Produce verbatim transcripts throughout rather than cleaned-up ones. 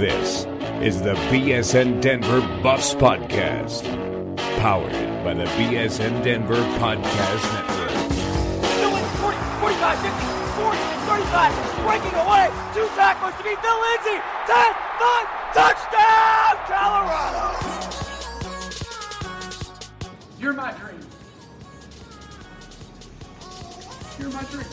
This is the B S N Denver Buffs Podcast, powered by the B S N Denver Podcast Network. forty, forty-five, fifty, forty, thirty-five, breaking away, two tackles to beat Phil Lindsay, ten, five, touchdown, Colorado! You're my dream. You're my dream.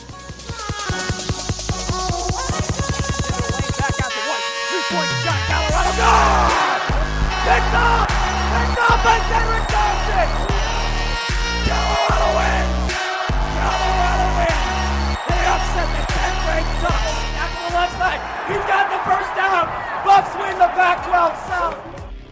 Back out to White, three-point shot, Colorado, good! Picked up! Picked up by Cedric Johnson! Colorado wins! Colorado wins! They upset the tenth-ranked Ducks. Back to the left side, he's got the first down! Buffs win the Pac twelve South!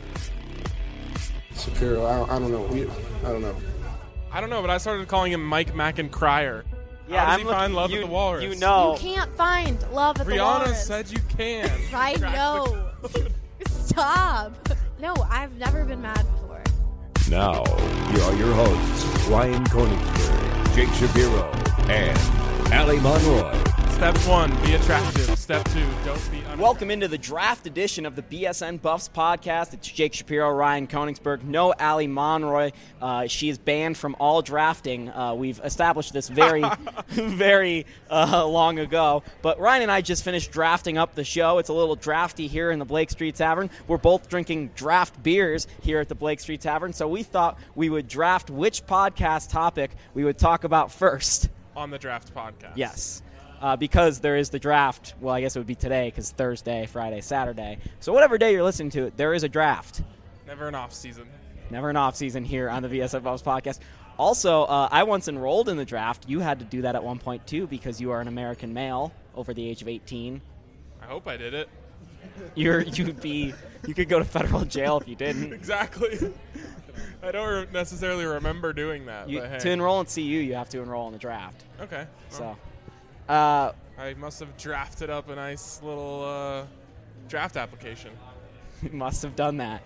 Shapiro, I don't, I don't know. We, I don't know. I don't know, but I started calling him Mike Mackin-Crier. Yeah, How does I'm he looking, find love you, at the Walrus? You know. You can't find love at the Brianna Walrus. said you can. I know. Stop. No, I've never been mad before. Now, here are your hosts, Ryan Koenigsberg, Jake Shapiro, and Allie Monroy. Step one, be attractive. Step two, don't be unattractive. Welcome into the draft edition of the B S N Buffs podcast. It's Jake Shapiro, Ryan Koenigsberg, no Allie Monroy. Uh, she is banned from all drafting. Uh, we've established this very, very uh, long ago. But Ryan and I just finished drafting up the show. It's a little drafty here in the Blake Street Tavern. We're both drinking draft beers here at the Blake Street Tavern, so we thought we would draft which podcast topic we would talk about first. On the draft podcast. Yes. Uh, because there is the draft. Well, I guess it would be today because Thursday, Friday, Saturday. So whatever day you're listening to it, there is a draft. Never an off season. Never an off season here on the V S F Buffs podcast. Also, uh, I once enrolled in the draft. You had to do that at one point too because you are an American male over the age of eighteen. I hope I did it. You're you'd be you could go to federal jail if you didn't. Exactly. I don't re- necessarily remember doing that. You, but hey. To enroll in C U, you have to enroll in the draft. Okay. So. Well, Uh, I must have drafted up a nice little uh, draft application. You must have done that.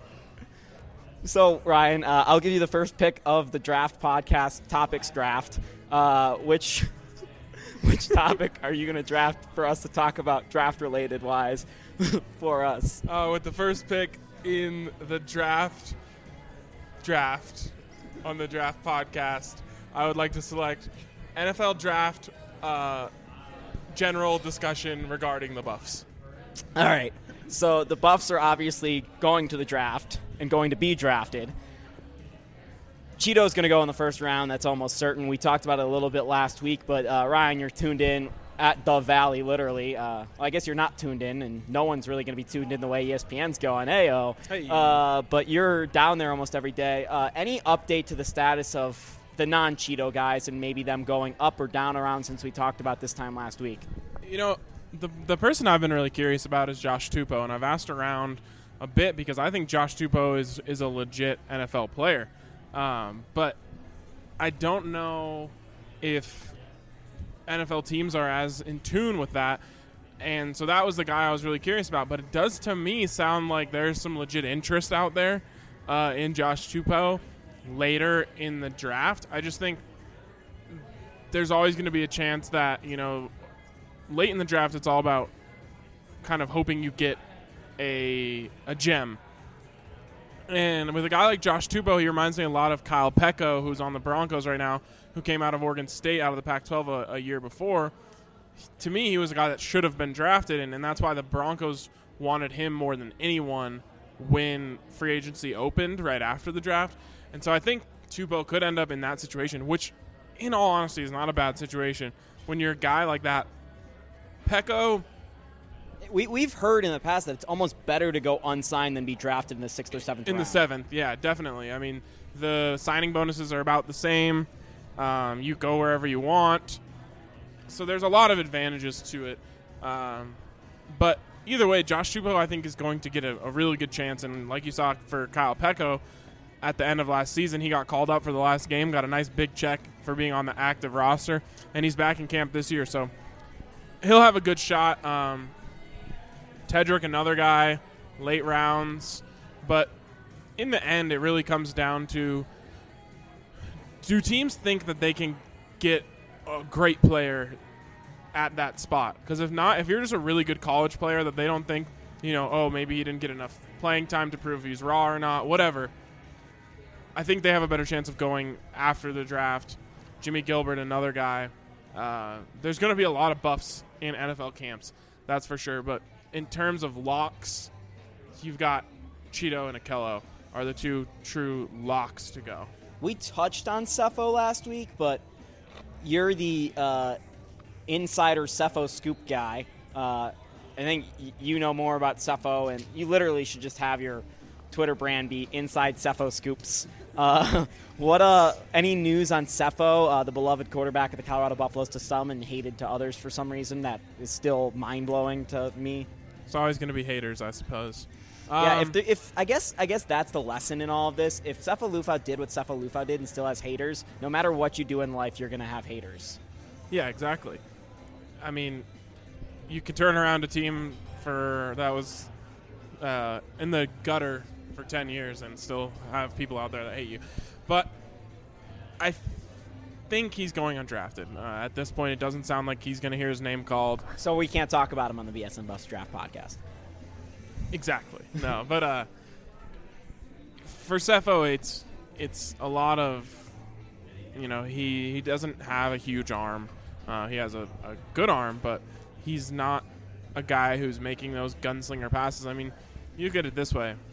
So, Ryan, uh, I'll give you the first pick of the draft podcast topics draft. Uh, which which topic are you going to draft for us to talk about draft-related wise for us? Uh, with the first pick in the draft draft on the draft podcast, I would like to select N F L draft uh, general discussion regarding the Buffs. All right. So the Buffs are obviously going to the draft and going to be drafted. Cheeto's going to go in the first round. That's almost certain. We talked about it a little bit last week, but uh, Ryan, you're tuned in at the Valley, literally. Uh, well, I guess you're not tuned in, and no one's really going to be tuned in the way E S P N's going. Hey-oh. Hey. Uh, but you're down there almost every day. Uh, any update to the status of the non-Cheeto guys and maybe them going up or down around since we talked about this time last week? You know, the the person I've been really curious about is Josh Tupou, and I've asked around a bit because I think Josh Tupou is, is a legit N F L player. Um, but I don't know if N F L teams are as in tune with that. And so that was the guy I was really curious about. But it does, to me, sound like there's some legit interest out there uh, in Josh Tupou later in the draft. I just think there's always going to be a chance that, you know, late in the draft it's all about kind of hoping you get a a gem. And with a guy like Josh Tupou, he reminds me a lot of Kyle Peko, who's on the Broncos right now, who came out of Oregon State out of the Pac twelve a, a year before. To me, he was a guy that should have been drafted, and, and that's why the Broncos wanted him more than anyone when free agency opened right after the draft. And so I think Tupou could end up in that situation, which, in all honesty, is not a bad situation. When you're a guy like that, Peko, We, we've heard in the past that it's almost better to go unsigned than be drafted in the sixth or seventh in round. the seventh, yeah, definitely. I mean, the signing bonuses are about the same. Um, you go wherever you want. So there's a lot of advantages to it. Um, but either way, Josh Tupou, I think, is going to get a, a really good chance. And like you saw for Kyle Peko, at the end of last season, he got called up for the last game, got a nice big check for being on the active roster, and he's back in camp this year. So he'll have a good shot. Um, Tedrick, another guy, late rounds. But in the end, it really comes down to, do teams think that they can get a great player at that spot? Because if not, if you're just a really good college player that they don't think you know, oh, maybe he didn't get enough playing time to prove he's raw or not, whatever. I think they have a better chance of going after the draft. Jimmy Gilbert, another guy. Uh, there's going to be a lot of buffs in N F L camps, that's for sure. But in terms of locks, you've got Cheeto and Akello are the two true locks to go. We touched on Cepho last week, but you're the uh, insider Cepho scoop guy. Uh, I think y- you know more about Cepho, and you literally should just have your Twitter brand be Inside Cepho Scoops. Uh, what uh, any news on Cepho, uh, the beloved quarterback of the Colorado Buffaloes to some and hated to others for some reason that is still mind-blowing to me? It's always going to be haters, I suppose. Yeah, Um, if the, if I guess I guess that's the lesson in all of this. If Cepho Lufau did what Cepho Lufau did and still has haters, no matter what you do in life, you're going to have haters. Yeah, exactly. I mean, you could turn around a team for that was uh, in the gutter for ten years and still have people out there that hate you. But I th- think he's going undrafted. Uh, at this point, it doesn't sound like he's going to hear his name called. So we can't talk about him on the B S N Buffs Draft podcast. Exactly. No, but uh, for Cepho, it's it's a lot of, you know, he, he doesn't have a huge arm. Uh, he has a, a good arm, but he's not a guy who's making those gunslinger passes. I mean, you look at it this way.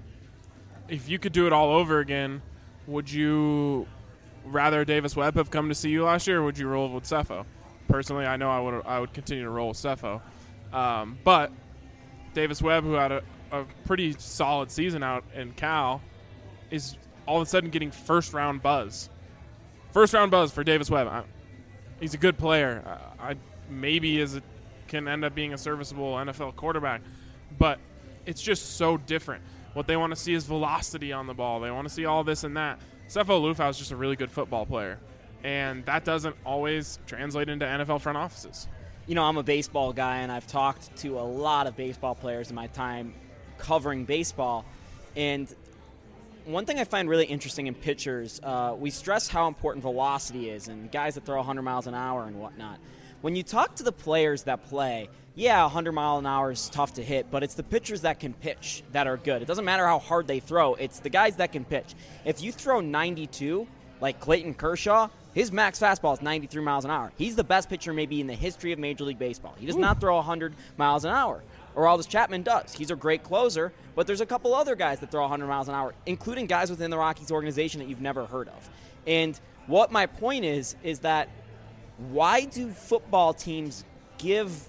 If you could do it all over again, would you rather Davis Webb have come to see you last year, or would you roll with Cepho? Personally, I know I would I would continue to roll with Cepho. Um, but Davis Webb, who had a, a pretty solid season out in Cal, is all of a sudden getting first-round buzz. First-round buzz for Davis Webb. I, he's a good player. I, I maybe is a, can end up being a serviceable N F L quarterback, but it's just so different. What they want to see is velocity on the ball. They want to see all this and that. Cepho Lufau is just a really good football player, and that doesn't always translate into N F L front offices. You know, I'm a baseball guy, and I've talked to a lot of baseball players in my time covering baseball. And one thing I find really interesting in pitchers, uh, we stress how important velocity is and guys that throw one hundred miles an hour and whatnot. When you talk to the players that play, yeah, one hundred mile an hour is tough to hit, but it's the pitchers that can pitch that are good. It doesn't matter how hard they throw. It's the guys that can pitch. If you throw ninety-two, like Clayton Kershaw, his max fastball is ninety-three miles an hour. He's the best pitcher maybe in the history of Major League Baseball. He does Ooh. not throw one hundred miles an hour. Aroldis Chapman does. He's a great closer, but there's a couple other guys that throw one hundred miles an hour, including guys within the Rockies organization that you've never heard of. And what my point is, is that why do football teams give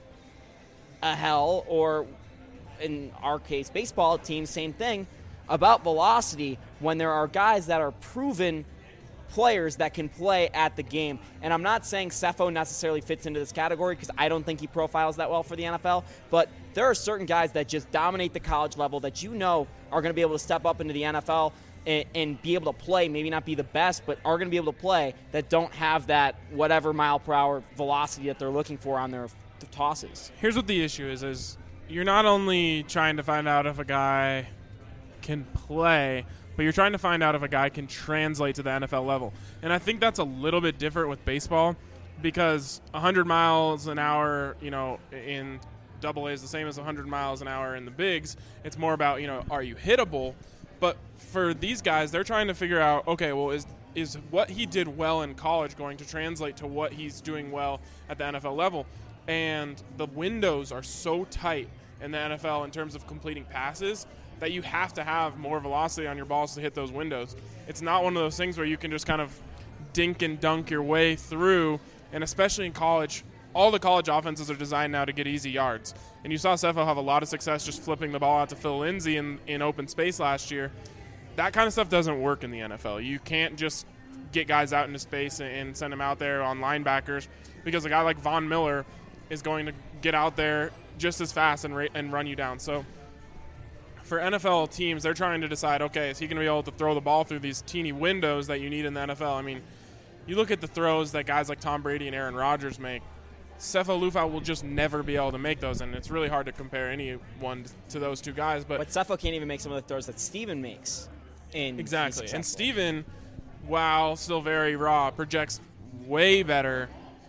a hell, or in our case, baseball teams, same thing, about velocity when there are guys that are proven players that can play at the game? And I'm not saying Cepho necessarily fits into this category because I don't think he profiles that well for the N F L, but there are certain guys that just dominate the college level that you know are going to be able to step up into the N F L and, and be able to play, maybe not be the best, but are going to be able to play, that don't have that whatever mile per hour velocity that they're looking for on their tosses. Here's what the issue is, is you're not only trying to find out if a guy can play, but you're trying to find out if a guy can translate to the N F L level. And I think that's a little bit different with baseball because one hundred miles an hour, you know, in double A is the same as one hundred miles an hour in the bigs. It's more about, you know, are you hittable? But for these guys, they're trying to figure out, okay, well, is is what he did well in college going to translate to what he's doing well at the N F L level? And the windows are so tight in the N F L in terms of completing passes that you have to have more velocity on your balls to hit those windows. It's not one of those things where you can just kind of dink and dunk your way through, and especially in college, all the college offenses are designed now to get easy yards. And you saw Cepho have a lot of success just flipping the ball out to Phil Lindsay in, in open space last year. That kind of stuff doesn't work in the N F L. You can't just get guys out into space and, and send them out there on linebackers because a guy like Von Miller is going to get out there just as fast and, ra- and run you down. So for N F L teams, they're trying to decide, okay, is he going to be able to throw the ball through these teeny windows that you need in the N F L? I mean, you look at the throws that guys like Tom Brady and Aaron Rodgers make, Cepho Lufau will just never be able to make those, and it's really hard to compare anyone to those two guys. But, but Cepho can't even make some of the throws that Steven makes. In exactly. And Steven, while still very raw, projects way better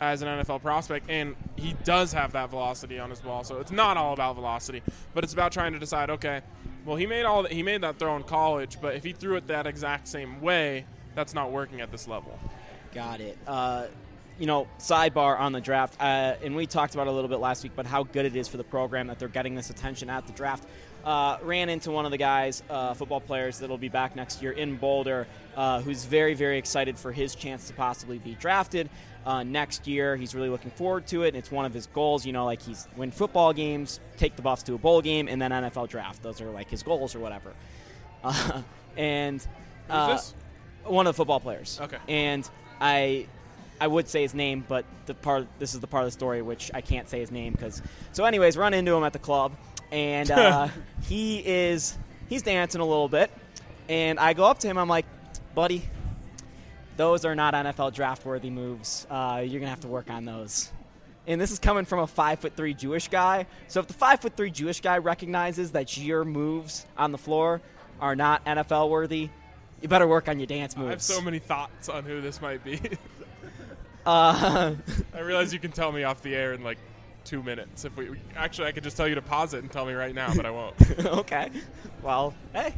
as an N F L prospect, and he does have that velocity on his ball. So it's not all about velocity, but it's about trying to decide, okay, well, he made all he made that throw in college, but if he threw it that exact same way, that's not working at this level. Got it. Uh, you know, sidebar on the draft, uh, and we talked about it a little bit last week, but how good it is for the program that they're getting this attention at the draft. Uh, ran into one of the guys, uh, football players that will be back next year in Boulder, uh, who's very, very excited for his chance to possibly be drafted uh, next year. He's really looking forward to it, and it's one of his goals. You know, like he's win football games, take the Buffs to a bowl game, and then N F L draft. Those are like his goals or whatever. Uh, and uh, Who's this? One of the football players. Okay. And I. I would say his name, but the part this is the part of the story which I can't say his name because. So, anyways, run into him at the club, and uh, he is he's dancing a little bit, and I go up to him. I'm like, buddy, those are not N F L draft worthy moves. Uh, you're gonna have to work on those. And this is coming from a five foot three Jewish guy. So if the five foot three Jewish guy recognizes that your moves on the floor are not N F L worthy, you better work on your dance moves. I have so many thoughts on who this might be. Uh, I realize you can tell me off the air in like two minutes. If we actually, I could just tell you to pause it and tell me right now, but I won't. Okay. Well, hey.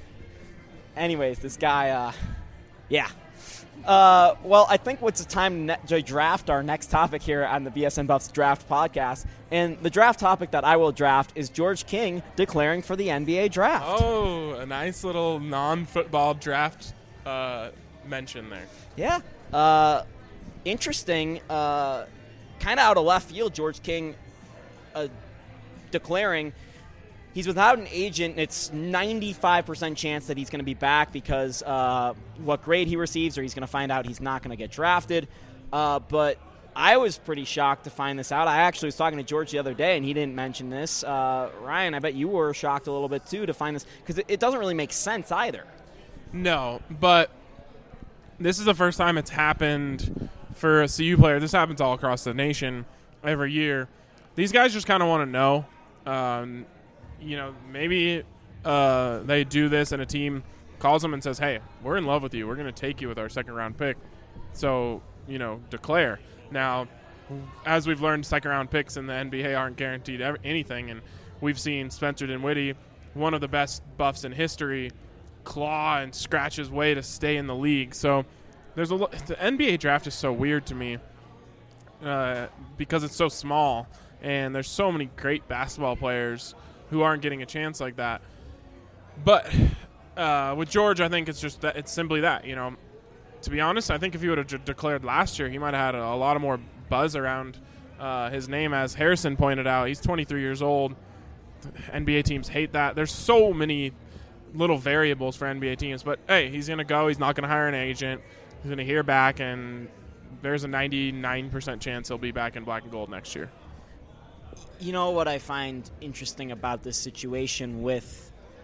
Anyways, this guy, uh, yeah. Uh, well, I think it's time to, ne- to draft our next topic here on the B S N Buffs Draft Podcast. And the draft topic that I will draft is George King declaring for the N B A draft. Oh, a nice little non-football draft uh, mention there. Yeah. Uh, interesting. Uh, kind of out of left field, George King uh, declaring he's without an agent. It's ninety-five percent chance that he's going to be back because uh, what grade he receives, or he's going to find out he's not going to get drafted. Uh, but I was pretty shocked to find this out. I actually was talking to George the other day, and he didn't mention this. Uh, Ryan, I bet you were shocked a little bit, too, to find this because it, it doesn't really make sense either. No, but this is the first time it's happened for a C U player. This happens all across the nation every year. These guys just kind of want to know. Um, you know, maybe uh, they do this and a team calls them and says, hey, we're in love with you. We're going to take you with our second-round pick. So, you know, declare. Now, as we've learned, second-round picks in the N B A aren't guaranteed ever- anything, and we've seen Spencer Dinwiddie, one of the best Buffs in history, claw and scratch his way to stay in the league. So there's a lo- the N B A draft is so weird to me uh, because it's so small, and there's so many great basketball players who aren't getting a chance like that. But uh, with George, I think it's just that it's simply that, you know. To be honest, I think if he would have j- declared last year, he might have had a, a lot of more buzz around uh, his name. As Harrison pointed out, he's twenty-three years old. N B A teams hate that. There's so many little variables for N B A teams. But, hey, he's going to go. He's not going to hire an agent. He's going to hear back, and there's a ninety-nine percent chance he'll be back in black and gold next year. You know what I find interesting about this situation with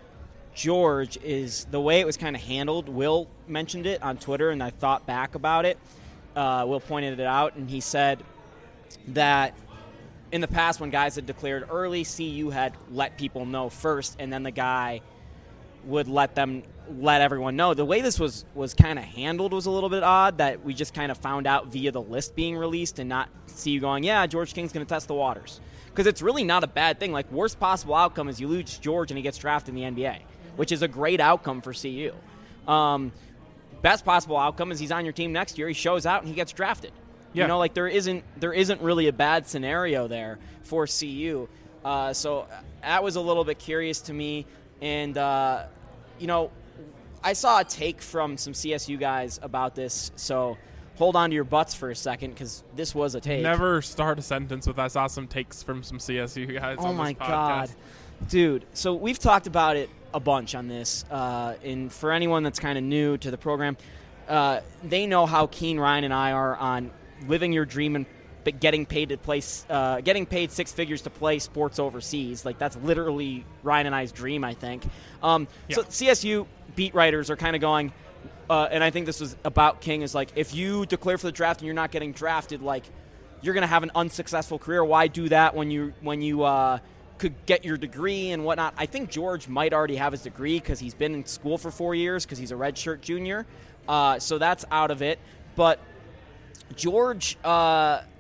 George is the way it was kind of handled. Will mentioned it on Twitter, and I thought back about it. Uh, Will pointed it out, and he said that in the past when guys had declared early, C U had let people know first, and then the guy would let them let everyone know. The way this was, was kind of handled was a little bit odd, that we just kind of found out via the list being released and not C U going, yeah, George King's going to test the waters. Because it's really not a bad thing. Like, worst possible outcome is you lose George and he gets drafted in the N B A, which is a great outcome for C U. Um, best possible outcome is he's on your team next year, he shows out, and he gets drafted. Yeah. You know, like, there isn't there isn't really a bad scenario there for C U. Uh, so that was a little bit curious to me. And, uh, you know, I saw a take from some C S U guys about this, so hold on to your butts for a second, because this was a take. Never start a sentence with I saw some takes from some C S U guys oh on my this podcast. God. Dude, so we've talked about it a bunch on this, uh, and for anyone that's kind of new to the program, uh, they know how keen Ryan and I are on living your dream and getting paid to play, uh, getting paid six figures to play sports overseas. Like, that's literally Ryan and I's dream, I think. Um, yeah. So C S U beat writers are kind of going, uh, and I think this was about King, is like, if you declare for the draft and you're not getting drafted, like, you're going to have an unsuccessful career. Why do that when you when you uh, could get your degree and whatnot? I think George might already have his degree because he's been in school for four years because he's a redshirt junior. Uh, so that's out of it. But George, uh,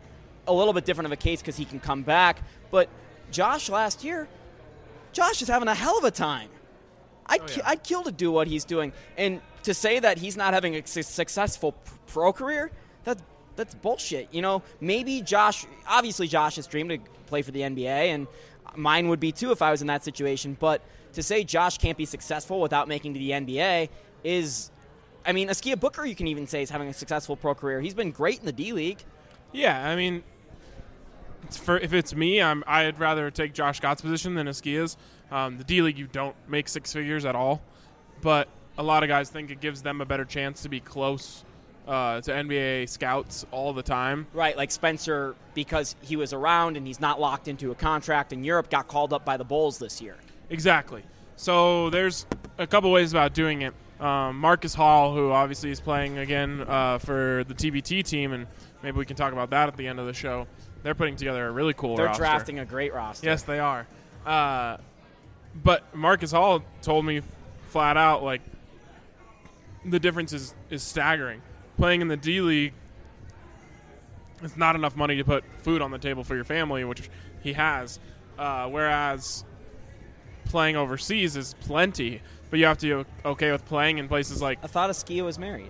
a little bit different of a case because he can come back. But Josh last year, Josh is having a hell of a time. I'd, Oh, yeah. ki- I'd kill to do what he's doing. And to say that he's not having a su- successful p- pro career, that's, that's bullshit. You know, maybe Josh, obviously Josh's dream to play for the N B A, and mine would be too if I was in that situation. But to say Josh can't be successful without making to the N B A is, I mean, Askia Booker, you can even say, is having a successful pro career. He's been great in the D League. Yeah, I mean, it's for, if it's me, I'm, I'd rather take Josh Scott's position than Askia's. Um, the D League, you don't make six figures at all, but a lot of guys think it gives them a better chance to be close uh, to N B A scouts all the time. Right, like Spencer, because he was around and he's not locked into a contract in Europe, got called up by the Bulls this year. Exactly. So there's a couple ways about doing it. Um, Marcus Hall, who obviously is playing again uh, for the T B T team, and maybe we can talk about that at the end of the show. They're putting together a really cool They're roster. drafting a great roster. Yes, they are. Uh, but Marcus Hall told me flat out, like, the difference is, is staggering. Playing in the D League, it's not enough money to put food on the table for your family, which he has. Uh, whereas playing overseas is plenty, but you have to be okay with playing in places like... I thought Askia was married.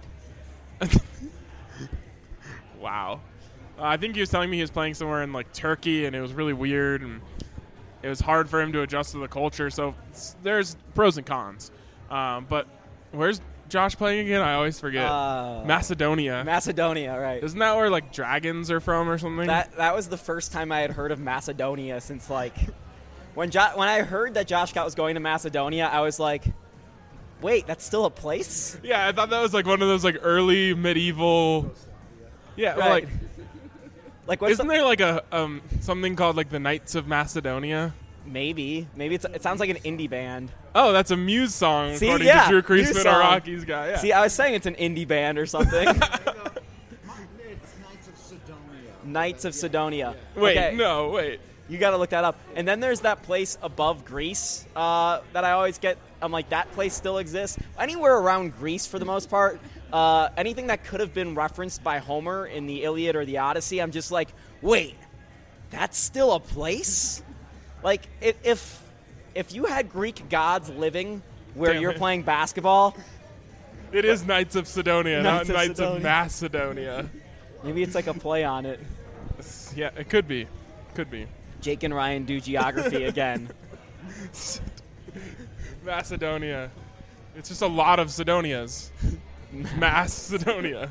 Wow. Uh, I think he was telling me he was playing somewhere in, like, Turkey, and it was really weird, and it was hard for him to adjust to the culture. So there's pros and cons. Um, but where's Josh playing again? I always forget. Uh, Macedonia. Macedonia, right. Isn't that where, like, dragons are from or something? That that was the first time I had heard of Macedonia since, like, when jo- when I heard that Josh Scott was going to Macedonia, I was like, wait, that's still a place? Yeah, I thought that was, like, one of those, like, early medieval... Yeah, well, Right. like... Like, what's Isn't the- there, like, a um something called, like, the Knights of Macedonia? Maybe. Maybe it's, it sounds like an indie band. Oh, that's a Muse song, See, according yeah, to Drew Muse Kreisman, song. our Rockies guy. Yeah. See, I was saying it's an indie band or something. It's Knights of Sidonia. Knights of Sidonia. wait, Okay. no, wait. You got to look that up. And then there's that place above Greece uh, that I always get. I'm like, that place still exists. Anywhere around Greece, for the most part, uh, anything that could have been referenced by Homer in the Iliad or the Odyssey, I'm just like, wait, that's still a place? Like, if if, if you had Greek gods living where Damn you're it. playing basketball, It is Knights of Sidonia, Knights of not Knights Sidonia. of Macedonia. maybe it's like a play on it. Yeah, it could be. Could be. Jake and Ryan do geography again. Macedonia. It's just a lot of Sidonias. Macedonia.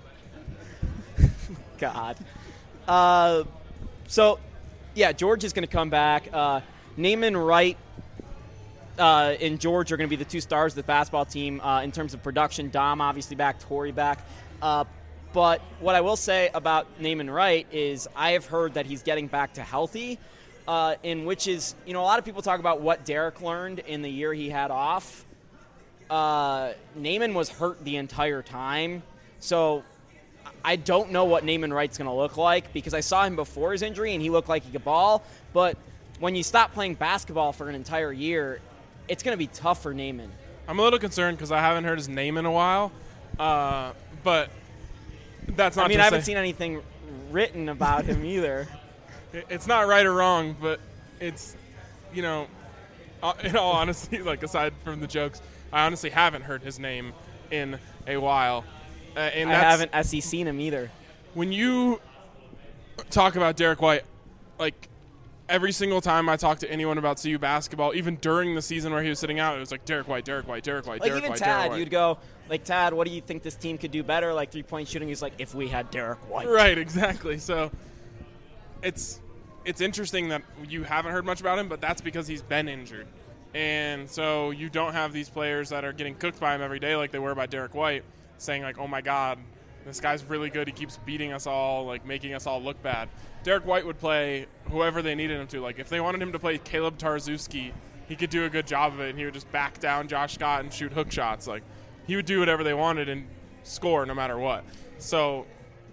God. Uh, so, yeah, George is going to come back. Uh, Naaman Wright uh, and George are going to be the two stars of the basketball team uh, in terms of production. Dom obviously back, Torrey back. Uh, but what I will say about Naaman Wright is I have heard that he's getting back to healthy, uh, in which is, you know, a lot of people talk about what Derek learned in the year he had off. Uh, Naaman was hurt the entire time, so I don't know what Naaman Wright's going to look like because I saw him before his injury and he looked like he could ball. But when you stop playing basketball for an entire year, it's going to be tough for Naaman. I'm a little concerned because I haven't heard his name in a while. Uh, but that's not I mean, to I haven't say- seen anything written about him either. It- It's not right or wrong, but it's, you know, uh, in all honesty, like aside from the jokes, I honestly haven't heard his name in a while. Uh, and I that's, haven't S E seen him either. When you talk about Derek White, like every single time I talk to anyone about C U basketball, even during the season where he was sitting out, it was like Derek White, Derek White, Derek White, Like Derek even White, Tad, Derek White. you'd go, like, Tad, what do you think this team could do better? Like three-point shooting, he's like, if we had Derek White. Right, exactly. So it's it's interesting that you haven't heard much about him, but that's because he's been injured. And so you don't have these players that are getting cooked by him every day like they were by Derek White, saying like, oh my God, this guy's really good. He keeps beating us all, like making us all look bad. Derek White would play whoever they needed him to. Like if they wanted him to play Caleb Tarzewski, he could do a good job of it, and he would just back down Josh Scott and shoot hook shots. Like he would do whatever they wanted and score no matter what. So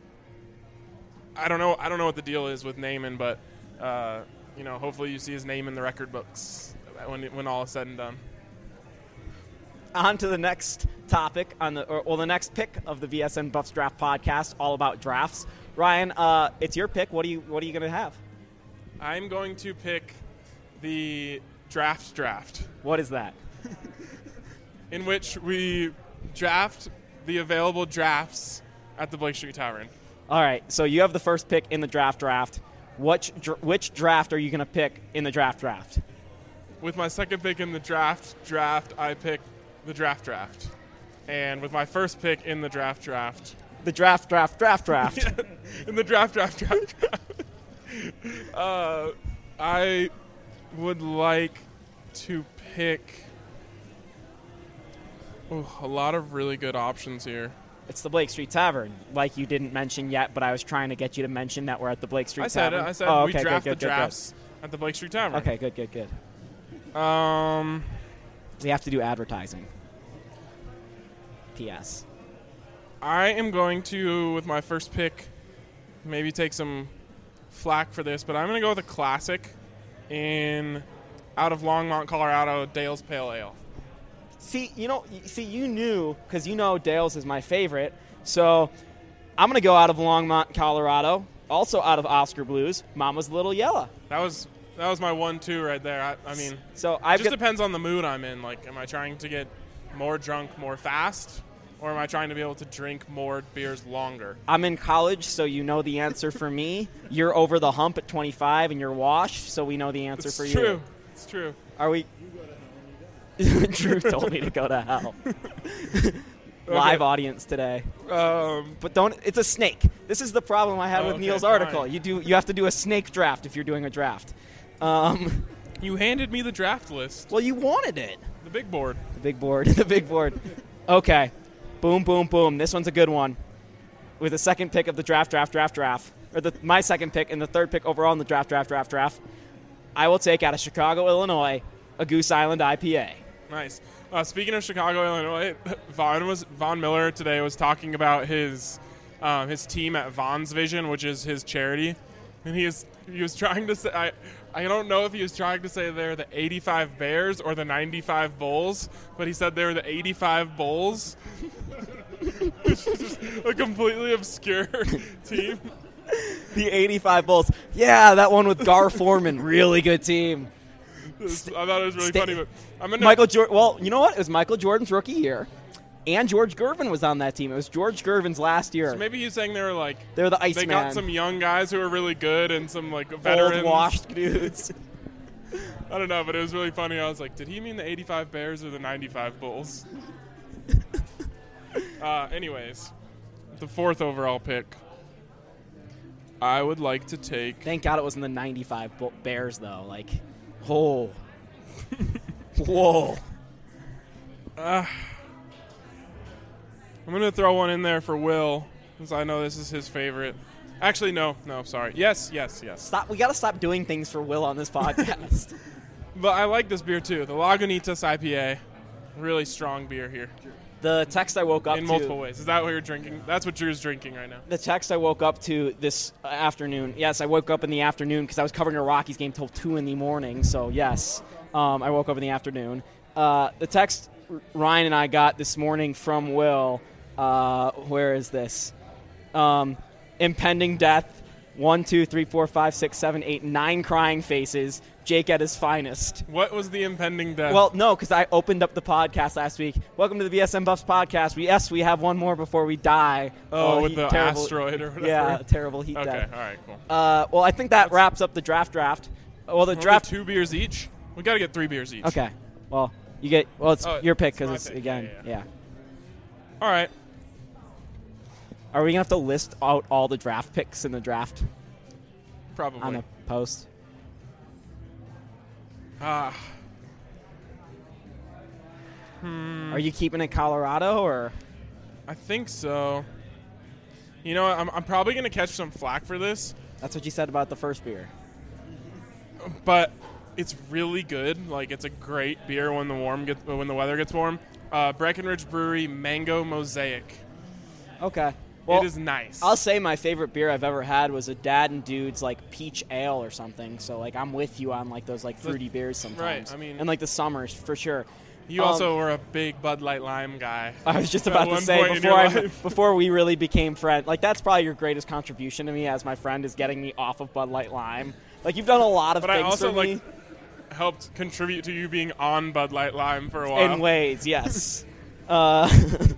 I don't know. I don't know what the deal is with Naaman, but uh, you know, hopefully you see his name in the record books when when all is said and done. on to the next topic on the or, well the next pick of the V S N Buffs Draft Podcast, all about drafts. Ryan, uh, it's your pick. What are you What are you going to have? I'm going to pick the draft draft, What is that? in which we draft the available drafts at the Blake Street Tavern. All right, so you have the first pick in the draft draft. Which dr- which draft are you going to pick in the draft draft? With my second pick in the draft draft, I pick the draft draft. And with my first pick in the draft draft, The draft draft draft draft. in the draft draft draft draft, uh, I would like to pick oh, a lot of really good options here. It's the Blake Street Tavern, like you didn't mention yet, but I was trying to get you to mention that we're at the Blake Street I said Tavern. it. I said oh, we okay, draft good, good, the good, drafts at the Blake Street Tavern. Good. Okay, good, good, good. Um, We have to do advertising. P S. I am going to, with my first pick, maybe take some flack for this, but I'm going to go with a classic in out of Longmont, Colorado, Dale's Pale Ale. See, you know, y- see, you knew because you know Dale's is my favorite. So I'm gonna go out of Longmont, Colorado. Also out of Oscar Blues, Mama's Little Yella. That was that was my one-two right there. I, I mean, So it I've just got, depends on the mood I'm in. Like, am I trying to get more drunk more fast, or am I trying to be able to drink more beers longer? I'm in college, so you know the answer for me. You're over the hump at twenty-five, and you're washed, so we know the answer It's for true. you. It's true. Are we? Drew told me to go to hell. Live audience today. Um, But don't. It's a snake. This is the problem I had Oh, with okay, Neil's fine. article. You do. You have to do a snake draft if you're doing a draft. Um, you handed me the draft list, well, you wanted it. the big board. The big board. The big board. Okay. Boom, boom, boom. This one's a good one. With the second pick of the draft, draft, draft, draft, or the my second pick and the third pick overall in the draft, draft, draft, draft, I will take out of Chicago, Illinois, a Goose Island I P A. Nice. Uh, speaking of Chicago, Illinois, Vaughn was Vaughn Miller today was talking about his um, his team at Vaughn's Vision, which is his charity, and he is he was trying to say I I don't know if he was trying to say they're the eighty-five Bears or the ninety-five Bulls, but he said they were the eighty-five Bulls, which is just a completely obscure team. The eighty-five Bulls. Yeah, that one with Gar Foreman. Really good team. I thought it was really Sta- funny, but I'm gonna Michael Jordan. Well, you know what? It was Michael Jordan's rookie year, and George Gervin was on that team. It was George Gervin's last year. So maybe he's saying they were like They're the they Iceman. got some young guys who are really good and some like veterans. old washed dudes. I don't know, but it was really funny. I was like, did he mean the eighty-five Bears or the ninety-five Bulls? uh, anyways, the fourth overall pick, I would like to take. Thank God it wasn't the ninety-five Bull- Bears, though. Like, oh. Whoa. Uh, I'm going to throw one in there for Will, because I know this is his favorite. Actually, no, no, sorry. Yes, yes, yes. Stop. We got to stop doing things for Will on this podcast. But I like this beer, too. The Lagunitas I P A. Really strong beer here. The text I woke up In to. multiple ways. Is that what you're drinking? That's what Drew's drinking right now. The text I woke up to this afternoon. Yes, I woke up in the afternoon because I was covering a Rockies game till two in the morning. So yes, um, I woke up in the afternoon. Uh, the text Ryan and I got this morning from Will. Uh, where is this? Um, impending death. One, two, three, four, five, six, seven, eight, nine crying faces. Jake at his finest. What was the impending death? Well, no, because I opened up the podcast last week. Welcome to the B S N Buffs podcast. We, yes, we have one more before we die. oh, with heat- the terrible- asteroid or whatever? Yeah, terrible heat Okay, death. all right, cool. Uh, well, I think that wraps up the draft draft. Well, the Only draft. two beers each? We got to get three beers each. Okay. Well, you get. Well, it's Oh, your pick it's my because it's pick. again. Yeah, Yeah, yeah, All right. Are we gonna have to list out all the draft picks in the draft Probably. on the post? Ah, Are you keeping it Colorado or? I think so. You know, I'm, I'm probably going to catch some flack for this, That's what you said about the first beer. but it's really good. Like, it's a great beer when the warm gets when the weather gets warm. Uh, Breckenridge Brewery Mango Mosaic. Okay. Well, it is nice. I'll say my favorite beer I've ever had was a Dad and Dude's like peach ale or something. So like I'm with you on like those like fruity beers sometimes. I mean- and like the summers for sure. You Um, also were a big Bud Light Lime guy. I was just at about to one say point in before your I life. before we really became friends. Like that's probably your greatest contribution to me as my friend is getting me off of Bud Light Lime. Like you've done a lot of But I things also for me like helped contribute to you being on Bud Light Lime for a while. in ways, yes. uh,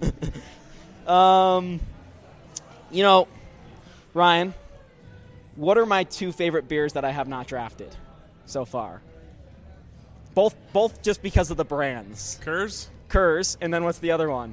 um, you know, Ryan, what are my two favorite beers that I have not drafted so far? Both, both just because of the brands. Kurz? Kurz, and then what's the other one?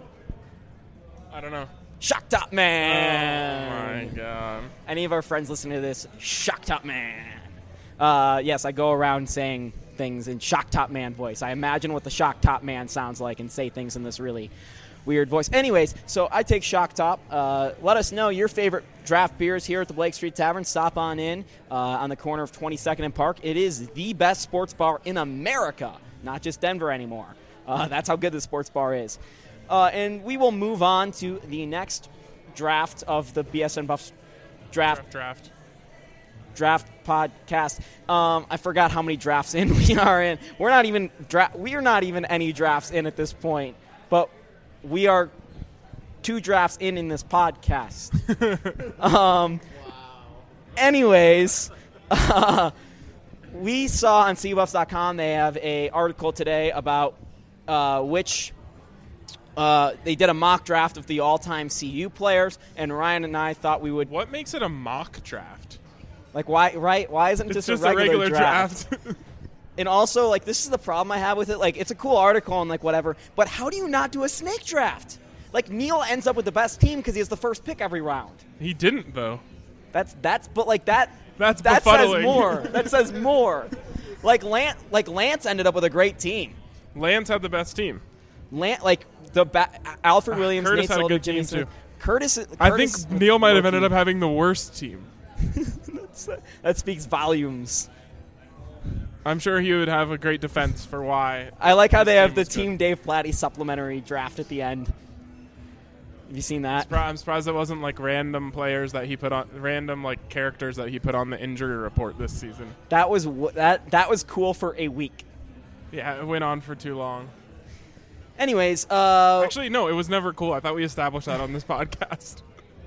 I don't know. Shock Top Man. Oh my god. Any of our friends listening to this, Shock Top Man. Uh, yes, I go around saying things in Shock Top Man voice. I imagine what the Shock Top Man sounds like and say things in this really weird voice. Anyways, so I take Shock Top. Uh, let us know your favorite draft beers here at the Blake Street Tavern. Stop on in uh, on the corner of twenty-second and Park. It is the best sports bar in America, not just Denver anymore. Uh, that's how good the sports bar is. Uh, and we will move on to the next draft of the B S N Buffs draft Draft. draft podcast. Um, I forgot how many drafts in we are in. We're not even dra- we are not even any drafts in at this point, but we are two drafts in in this podcast. um, anyways, uh, we saw on C U Buffs dot com they have a article today about uh, which. Uh, they did a mock draft of the all-time C U players, and Ryan and I thought we would What makes it a mock draft? like why right why isn't it It's just, just a regular, draft. And also, like, this is the problem I have with it. Like, it's a cool article and, like, whatever. But how do you not do a snake draft? Like, Neil ends up with the best team because he has the first pick every round. He didn't, though. That's, that's, but, like, that, That's that says befuddling. more. That says more. Like, Lance, like, Lance ended up with a great team. Lance had the best team. Lance, like, the ba- Alfred Williams, Curtis Nate had a Solder, good Jimmy team, Smith. too. Curtis, I Curtis think Neil might have ended rookie. up having the worst team. That speaks volumes. I'm sure he would have a great defense for why. I like how his they have team the was good. Team Dave Platty supplementary draft at the end. Have you seen that? I'm surprised it wasn't like random players that he put on, random like characters that he put on the injury report this season. That was w- that that was cool for a week. Yeah, it went on for too long. Anyways, uh, Actually, no, it was never cool. I thought we established that on this podcast.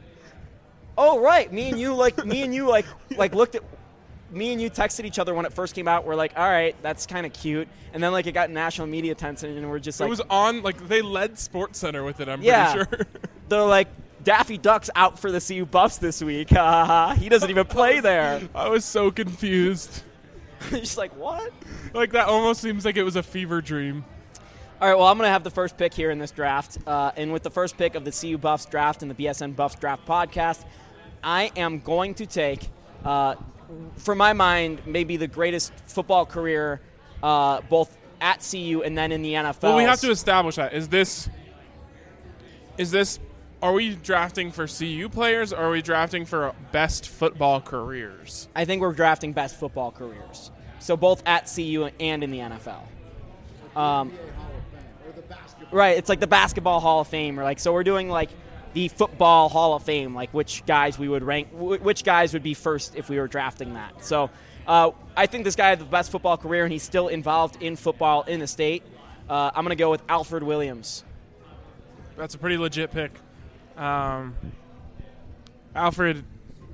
oh right, me and you like me and you like like looked at me and you texted each other when it first came out. We're like, all right, that's kind of cute, and then like it got national media attention, and we're just like, It was on, like, they led Sports Center with it, I'm Yeah. pretty sure. they're like, Daffy Duck's out for the C U Buffs this week. Ha ha ha. He doesn't even play there. I was so confused. Just like what? Like, that almost seems like it was a fever dream. All right, well, I'm going to have the first pick here in this draft. Uh, and with the first pick of the C U Buffs draft and the B S N Buffs draft podcast, I am going to take, uh, for my mind, maybe the greatest football career uh, both at C U and then in the N F L. Well, we have to establish that. Is this, is this, are we drafting for C U players or are we drafting for best football careers? I think we're drafting best football careers. So both at C U and in the N F L. Um, Or the basketball. right, it's like the Basketball Hall of Fame. Or like, so we're doing like the Football Hall of Fame, like which guys we would rank, wh- which guys would be first if we were drafting that. So uh, I think this guy had the best football career, and he's still involved in football in the state. Uh, I'm going to go with Alfred Williams. That's a pretty legit pick. Um, Alfred,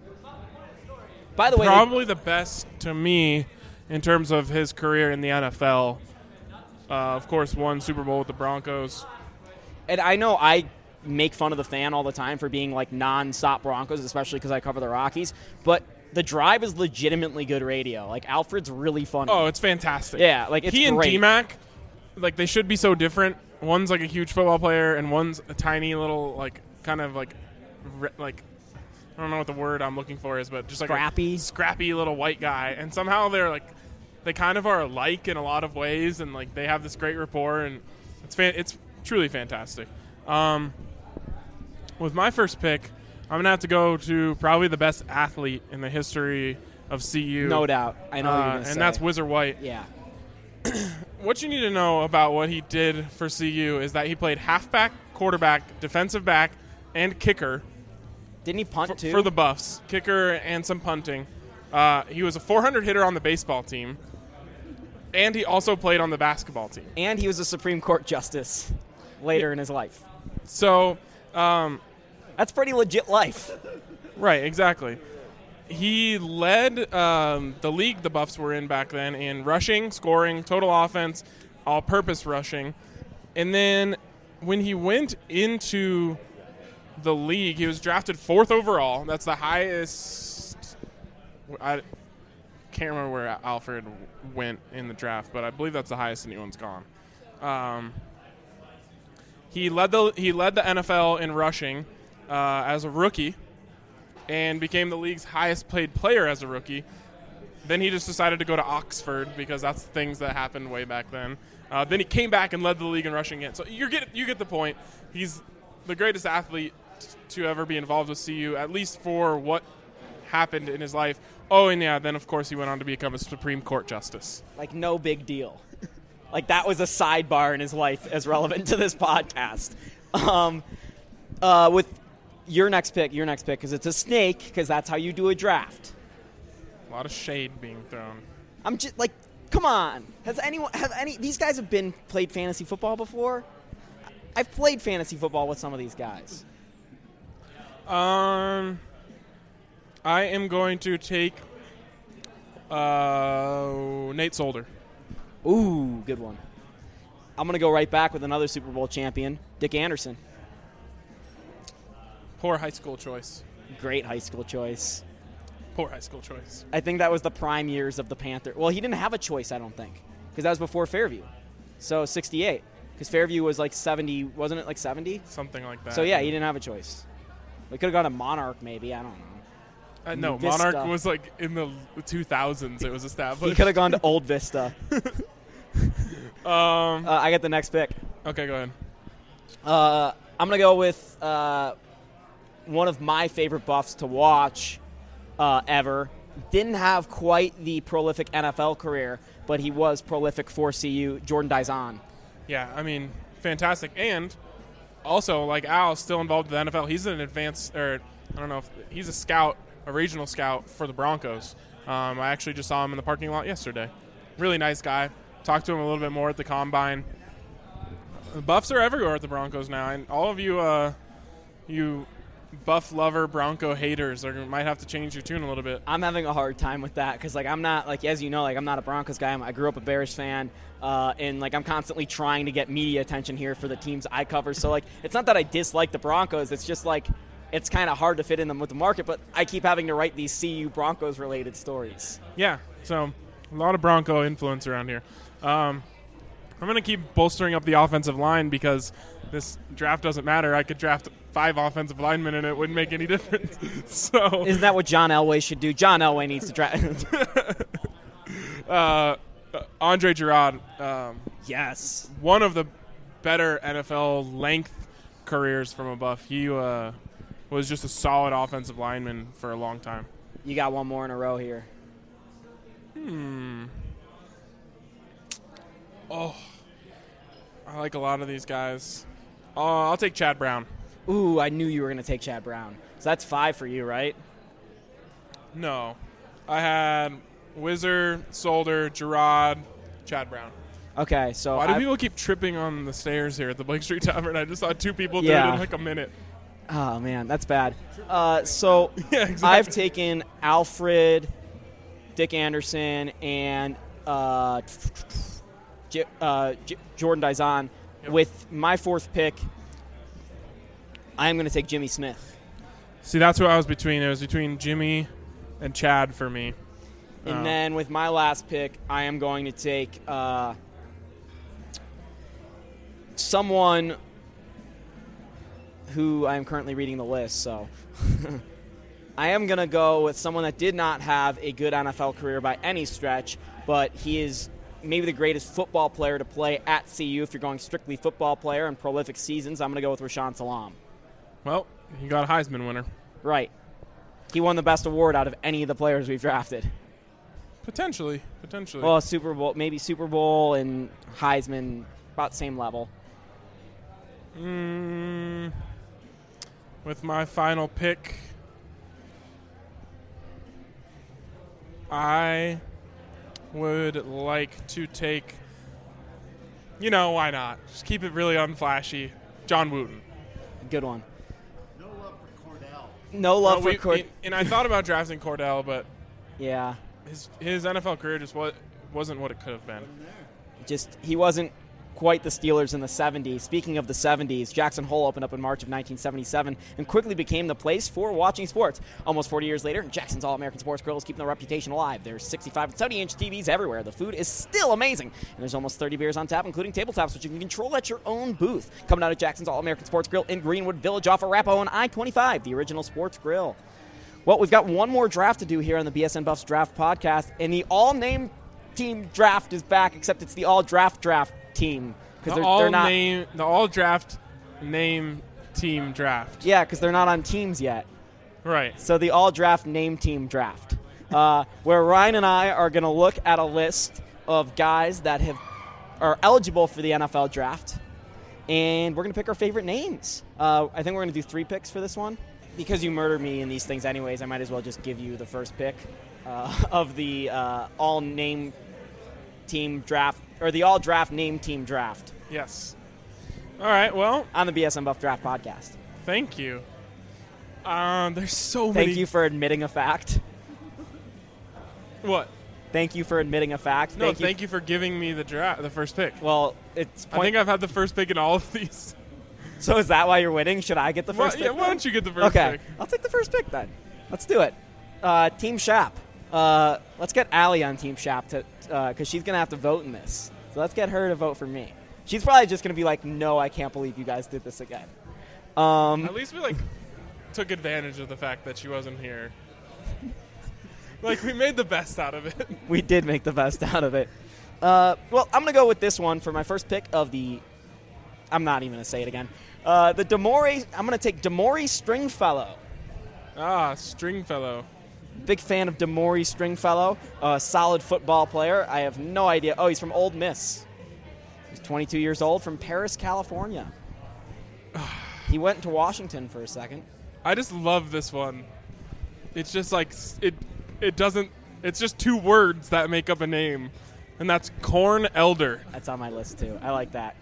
By the way, probably the best to me in terms of his career in the N F L. Uh, of course, won Super Bowl with the Broncos. and I know I make fun of the fan all the time for being like non-stop Broncos, especially because I cover the Rockies, but The Drive is legitimately good radio. Like, Alfred's really funny. Oh, it's fantastic. Yeah, like, it's he and great. D-Mac, like, they should be so different. One's like a huge football player, and one's a tiny little, like, kind of like, re- like, I don't know what the word I'm looking for is, but just like Scrappy? a scrappy little white guy. And somehow they're like, they kind of are alike in a lot of ways, and like they have this great rapport, and it's fan- it's truly fantastic. Um, with my first pick, I'm gonna have to go to probably the best athlete in the history of C U. No doubt. I know what you're Uh, going to say. and that's Whizzer White. Yeah. What you need to know about what he did for C U is that he played halfback, quarterback, defensive back, and kicker Didn't he punt, for, too? for the Buffs. Kicker and some punting. Uh, he was a four hundred hitter on the baseball team. And he also played on the basketball team. And he was a Supreme Court justice later Yeah. in his life. So, um, That's pretty legit life. right, exactly. He led um, the league the Buffs were in back then in rushing, scoring, total offense, all-purpose rushing. And then when he went into the league, he was drafted fourth overall. That's the highest. I can't remember where Alfred went in the draft, but I believe that's the highest anyone's gone. Um, he led the he led the N F L in rushing uh, as a rookie, and became the league's highest paid player as a rookie. Then he just decided to go to Oxford because that's things that happened way back then. Uh, then he came back and led the league in rushing again. So you get you get the point. He's the greatest athlete to ever be involved with C U, at least for what happened in his life. Oh, and yeah, then of course he went on to become a Supreme Court justice. Like, no big deal. Like, that was a sidebar in his life as relevant to this podcast. Um, uh, with your next pick, your next pick, because it's a snake, because that's how you do a draft. A lot of shade being thrown. I'm just like, come on. Has anyone, have any, these guys have been, played fantasy football before? I've played fantasy football with some of these guys. Um, I am going to take uh, Nate Solder. Ooh, good one. I'm going to go right back with another Super Bowl champion, Dick Anderson. Poor high school choice. Great high school choice. Poor high school choice. I think that was the prime years of the Panther. Well, he didn't have a choice, I don't think, because that was before Fairview. So sixty-eight, because Fairview was like seventy, wasn't it like seventy? Something like that. So yeah, he didn't have a choice. We could have gone to Monarch, maybe. I don't know. Uh, no, Vista. Monarch was like in the two thousands. It was established. He could have gone to Old Vista. Um. Uh, I got the next pick. Okay, go ahead. Uh, I'm going to go with uh, one of my favorite Buffs to watch uh, ever. Didn't have quite the prolific N F L career, but he was prolific for C U, Jordan Dizon. Yeah, I mean, fantastic. And also, like Al, still involved with the N F L. He's an advanced, or I don't know if he's a scout, a regional scout for the Broncos. Um, I actually just saw him in the parking lot yesterday. Really nice guy. Talked to him a little bit more at the Combine. The Buffs are everywhere at the Broncos now, and all of you, uh, you Buff lover Bronco haters, are might have to change your tune a little bit. I'm having a hard time with that because, like, I'm not, like, as you know, like, I'm not a Broncos guy. I'm, I grew up a Bears fan, uh, and, like, I'm constantly trying to get media attention here for the teams I cover. So, like, it's not that I dislike the Broncos. It's just, like, it's kind of hard to fit in them with the market, but I keep having to write these C U Broncos-related stories. Yeah, so a lot of Bronco influence around here. Um, I'm going to keep bolstering up the offensive line because this draft doesn't matter. I could draft five offensive linemen and it wouldn't make any difference. So Isn't that what John Elway should do? John Elway needs to draft. uh, Andre Girard, um, Yes. one of the better N F L length careers from a Buff. He uh, was just a solid offensive lineman for a long time. You got one more in a row here. Hmm. Oh, I like a lot of these guys. Oh, I'll take Chad Brown. Ooh, I knew you were going to take Chad Brown. So that's five for you, right? No. I had Whizzer, Solder, Girard, Chad Brown. Okay, so Why do I've- people keep tripping on the stairs here at the Blake Street Tavern? I just saw two people do Yeah. it in like a minute. Oh, man, that's bad. Uh, so Yeah, exactly. I've taken Alfred, Dick Anderson, and uh, J- uh, J- Jordan Dizon. Yep. With my fourth pick, I'm going to take Jimmy Smith. See, that's who I was between. It was between Jimmy and Chad for me. And Uh, then with my last pick, I am going to take uh, someone who I am currently reading the list. So I am going to go with someone that did not have a good N F L career by any stretch, but he is maybe the greatest football player to play at C U if you're going strictly football player and prolific seasons. I'm going to go with Rashaan Salam. Well, you got a Heisman winner. Right. He won the best award out of any of the players we've drafted. Potentially. Potentially. Well, Super Bowl, maybe Super Bowl and Heisman, about same level. Mm, with my final pick, I would like to take, you know, why not? Just keep it really unflashy. John Wooten. Good one. No love for Cordell. No love Well, for we- Cord. and, and I thought about drafting Cordell, but Yeah. his his N F L career just wa- wasn't what it could have been. Just he wasn't quite the Steelers in the seventies. Speaking of the seventies, Jackson Hole opened up in March of nineteen seventy-seven and quickly became the place for watching sports. Almost forty years later, Jackson's All-American Sports Grill is keeping the reputation alive. There's sixty-five and seventy-inch T Vs everywhere. The food is still amazing. And there's almost thirty beers on tap, including tabletops, which you can control at your own booth. Coming out of Jackson's All-American Sports Grill in Greenwood Village off Arapahoe on I twenty-five, the original sports grill. Well, we've got one more draft to do here on the B S N Buffs Draft Podcast, and the all-name team draft is back, except it's the all-draft draft team. Because The they're, all they're not, name, the all draft name team draft. yeah, because they're not on teams yet. Right. So the all draft name team draft, uh, where Ryan and I are going to look at a list of guys that have are eligible for the N F L draft, and we're going to pick our favorite names. Uh, I think we're going to do three picks for this one. Because you murder me in these things anyways, I might as well just give you the first pick uh, of the uh, all name team draft, or the all draft name team draft Yes. All right. Well, on the B S N Buff Draft Podcast. thank you. Um, there's so Thank many. you for admitting a fact. What? Thank you for admitting a fact. No, thank, thank you. you for giving me the draft, the first pick. Well, it's I point- think I've had the first pick in all of these. so. Is that why you're winning? Should I get the Why, first yeah, pick? why then? don't you get the first okay, pick? I'll take the first pick then. Let's do it. Uh, Team Shap. Uh, let's get Allie on Team Shap to because she's gonna have to vote in this. So let's get her to vote for me. She's probably just gonna be like, "No, I can't believe you guys did this again." Um, At least we like took advantage of the fact that she wasn't here. Like we made the best out of it. we did make the best out of it. Uh, well, I'm going to go with this one for my first pick of the. I'm not even going to say it again. Uh, the Demore. I'm going to take Demore Stringfellow. Ah, Stringfellow. Big fan of Demore Stringfellow. A solid football player. I have no idea. Oh, he's from Ole Miss. He's twenty-two years old from Paris, California. He went to Washington for a second. I just love this one. It's just like s- it. It doesn't. It's just two words that make up a name, and that's corn elder. That's on my list too. I like that.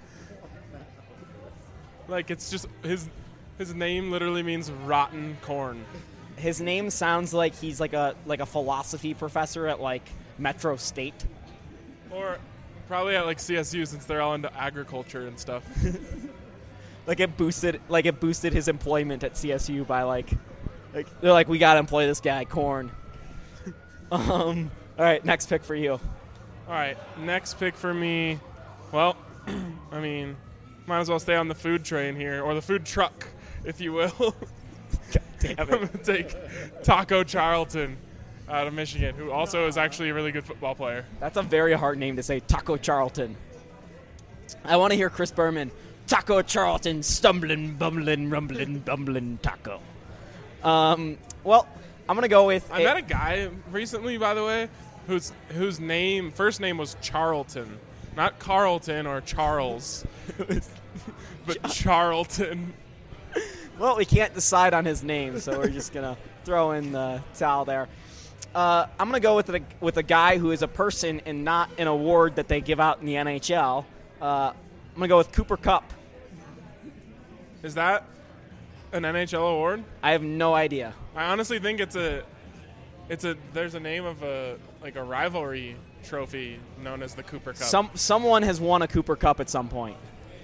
Like it's just his. His name literally means rotten corn. His name sounds like he's like a like a philosophy professor at like Metro State. Or probably at like C S U since they're all into agriculture and stuff. Like it boosted like it boosted his employment at C S U by like like they're like, we gotta employ this guy, corn. um all right, next pick for you. All right, next pick for me. Well, I mean, might as well stay on the food train here, or the food truck, if you will. Damn I'm going to take Taco Charlton out of Michigan, who also is actually a really good football player. That's a very hard name to say, Taco Charlton. I want to hear Chris Berman. Taco Charlton, stumbling, bumbling, rumbling, bumbling taco. Um, well, I'm gonna go with. I met a guy recently, by the way, whose whose name first name was Charlton, not Carlton or Charles, but Charlton. Well, we can't decide on his name, so we're just gonna throw in the towel there. Uh, I'm gonna go with a with a guy who is a person and not an award that they give out in the N H L. Uh, I'm gonna go with Cooper Kupp. Is that an N H L award? I have no idea. I honestly think it's a, it's a. There's a name of a like a rivalry trophy known as the Cooper Cup. Some someone has won a Cooper Kupp at some point.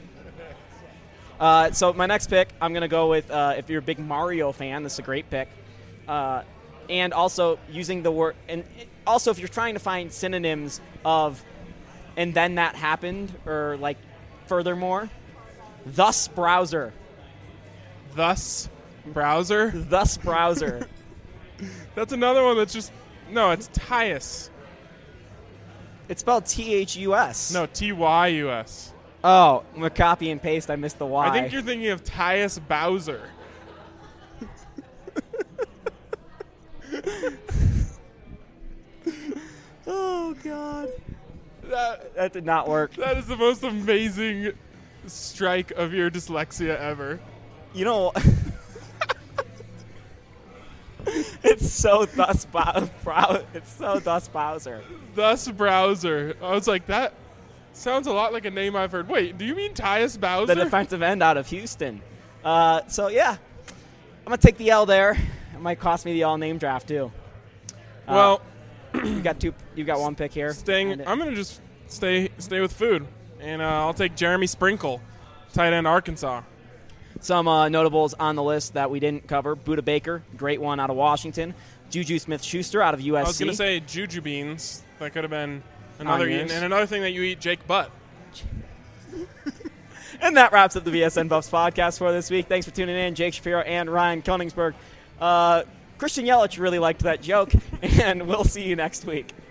Uh, so my next pick, I'm gonna go with. Uh, if you're a big Mario fan, this is a great pick. Uh, and also using the word, and also if you're trying to find synonyms of, and then that happened, or like, furthermore, thus browser, Thus, browser. thus browser. That's another one that's just no. It's Tyus. It's spelled T H U S. No, T Y U S. Oh, I'm gonna copy and paste. I missed the Y. I think you're thinking of Tyus Bowser. Oh God. That, that did not work. That is the most amazing strike of your dyslexia ever. You know, it's so thus Bow- Brow- it's so thus Bowser. Thus Browser. I was like, that sounds a lot like a name I've heard. Wait, do you mean Tyus Bowser? The defensive end out of Houston. Uh, so yeah, I'm gonna take the L there. It might cost me the all name draft too. Uh, Well, you got two. You got one pick here. staying. And it- I'm gonna just stay stay with food, and uh, I'll take Jeremy Sprinkle, tight end Arkansas. Some uh, notables on the list that we didn't cover: Buda Baker, great one out of Washington. Juju Smith-Schuster out of U S C. I was gonna say Juju beans. That could have been another. Onions. And another thing that you eat, Jake Butt. And that wraps up the B S N Buffs podcast for this week. Thanks for tuning in, Jake Shapiro and Ryan Koenigsberg. Uh, Christian Yelich really liked that joke, and we'll see you next week.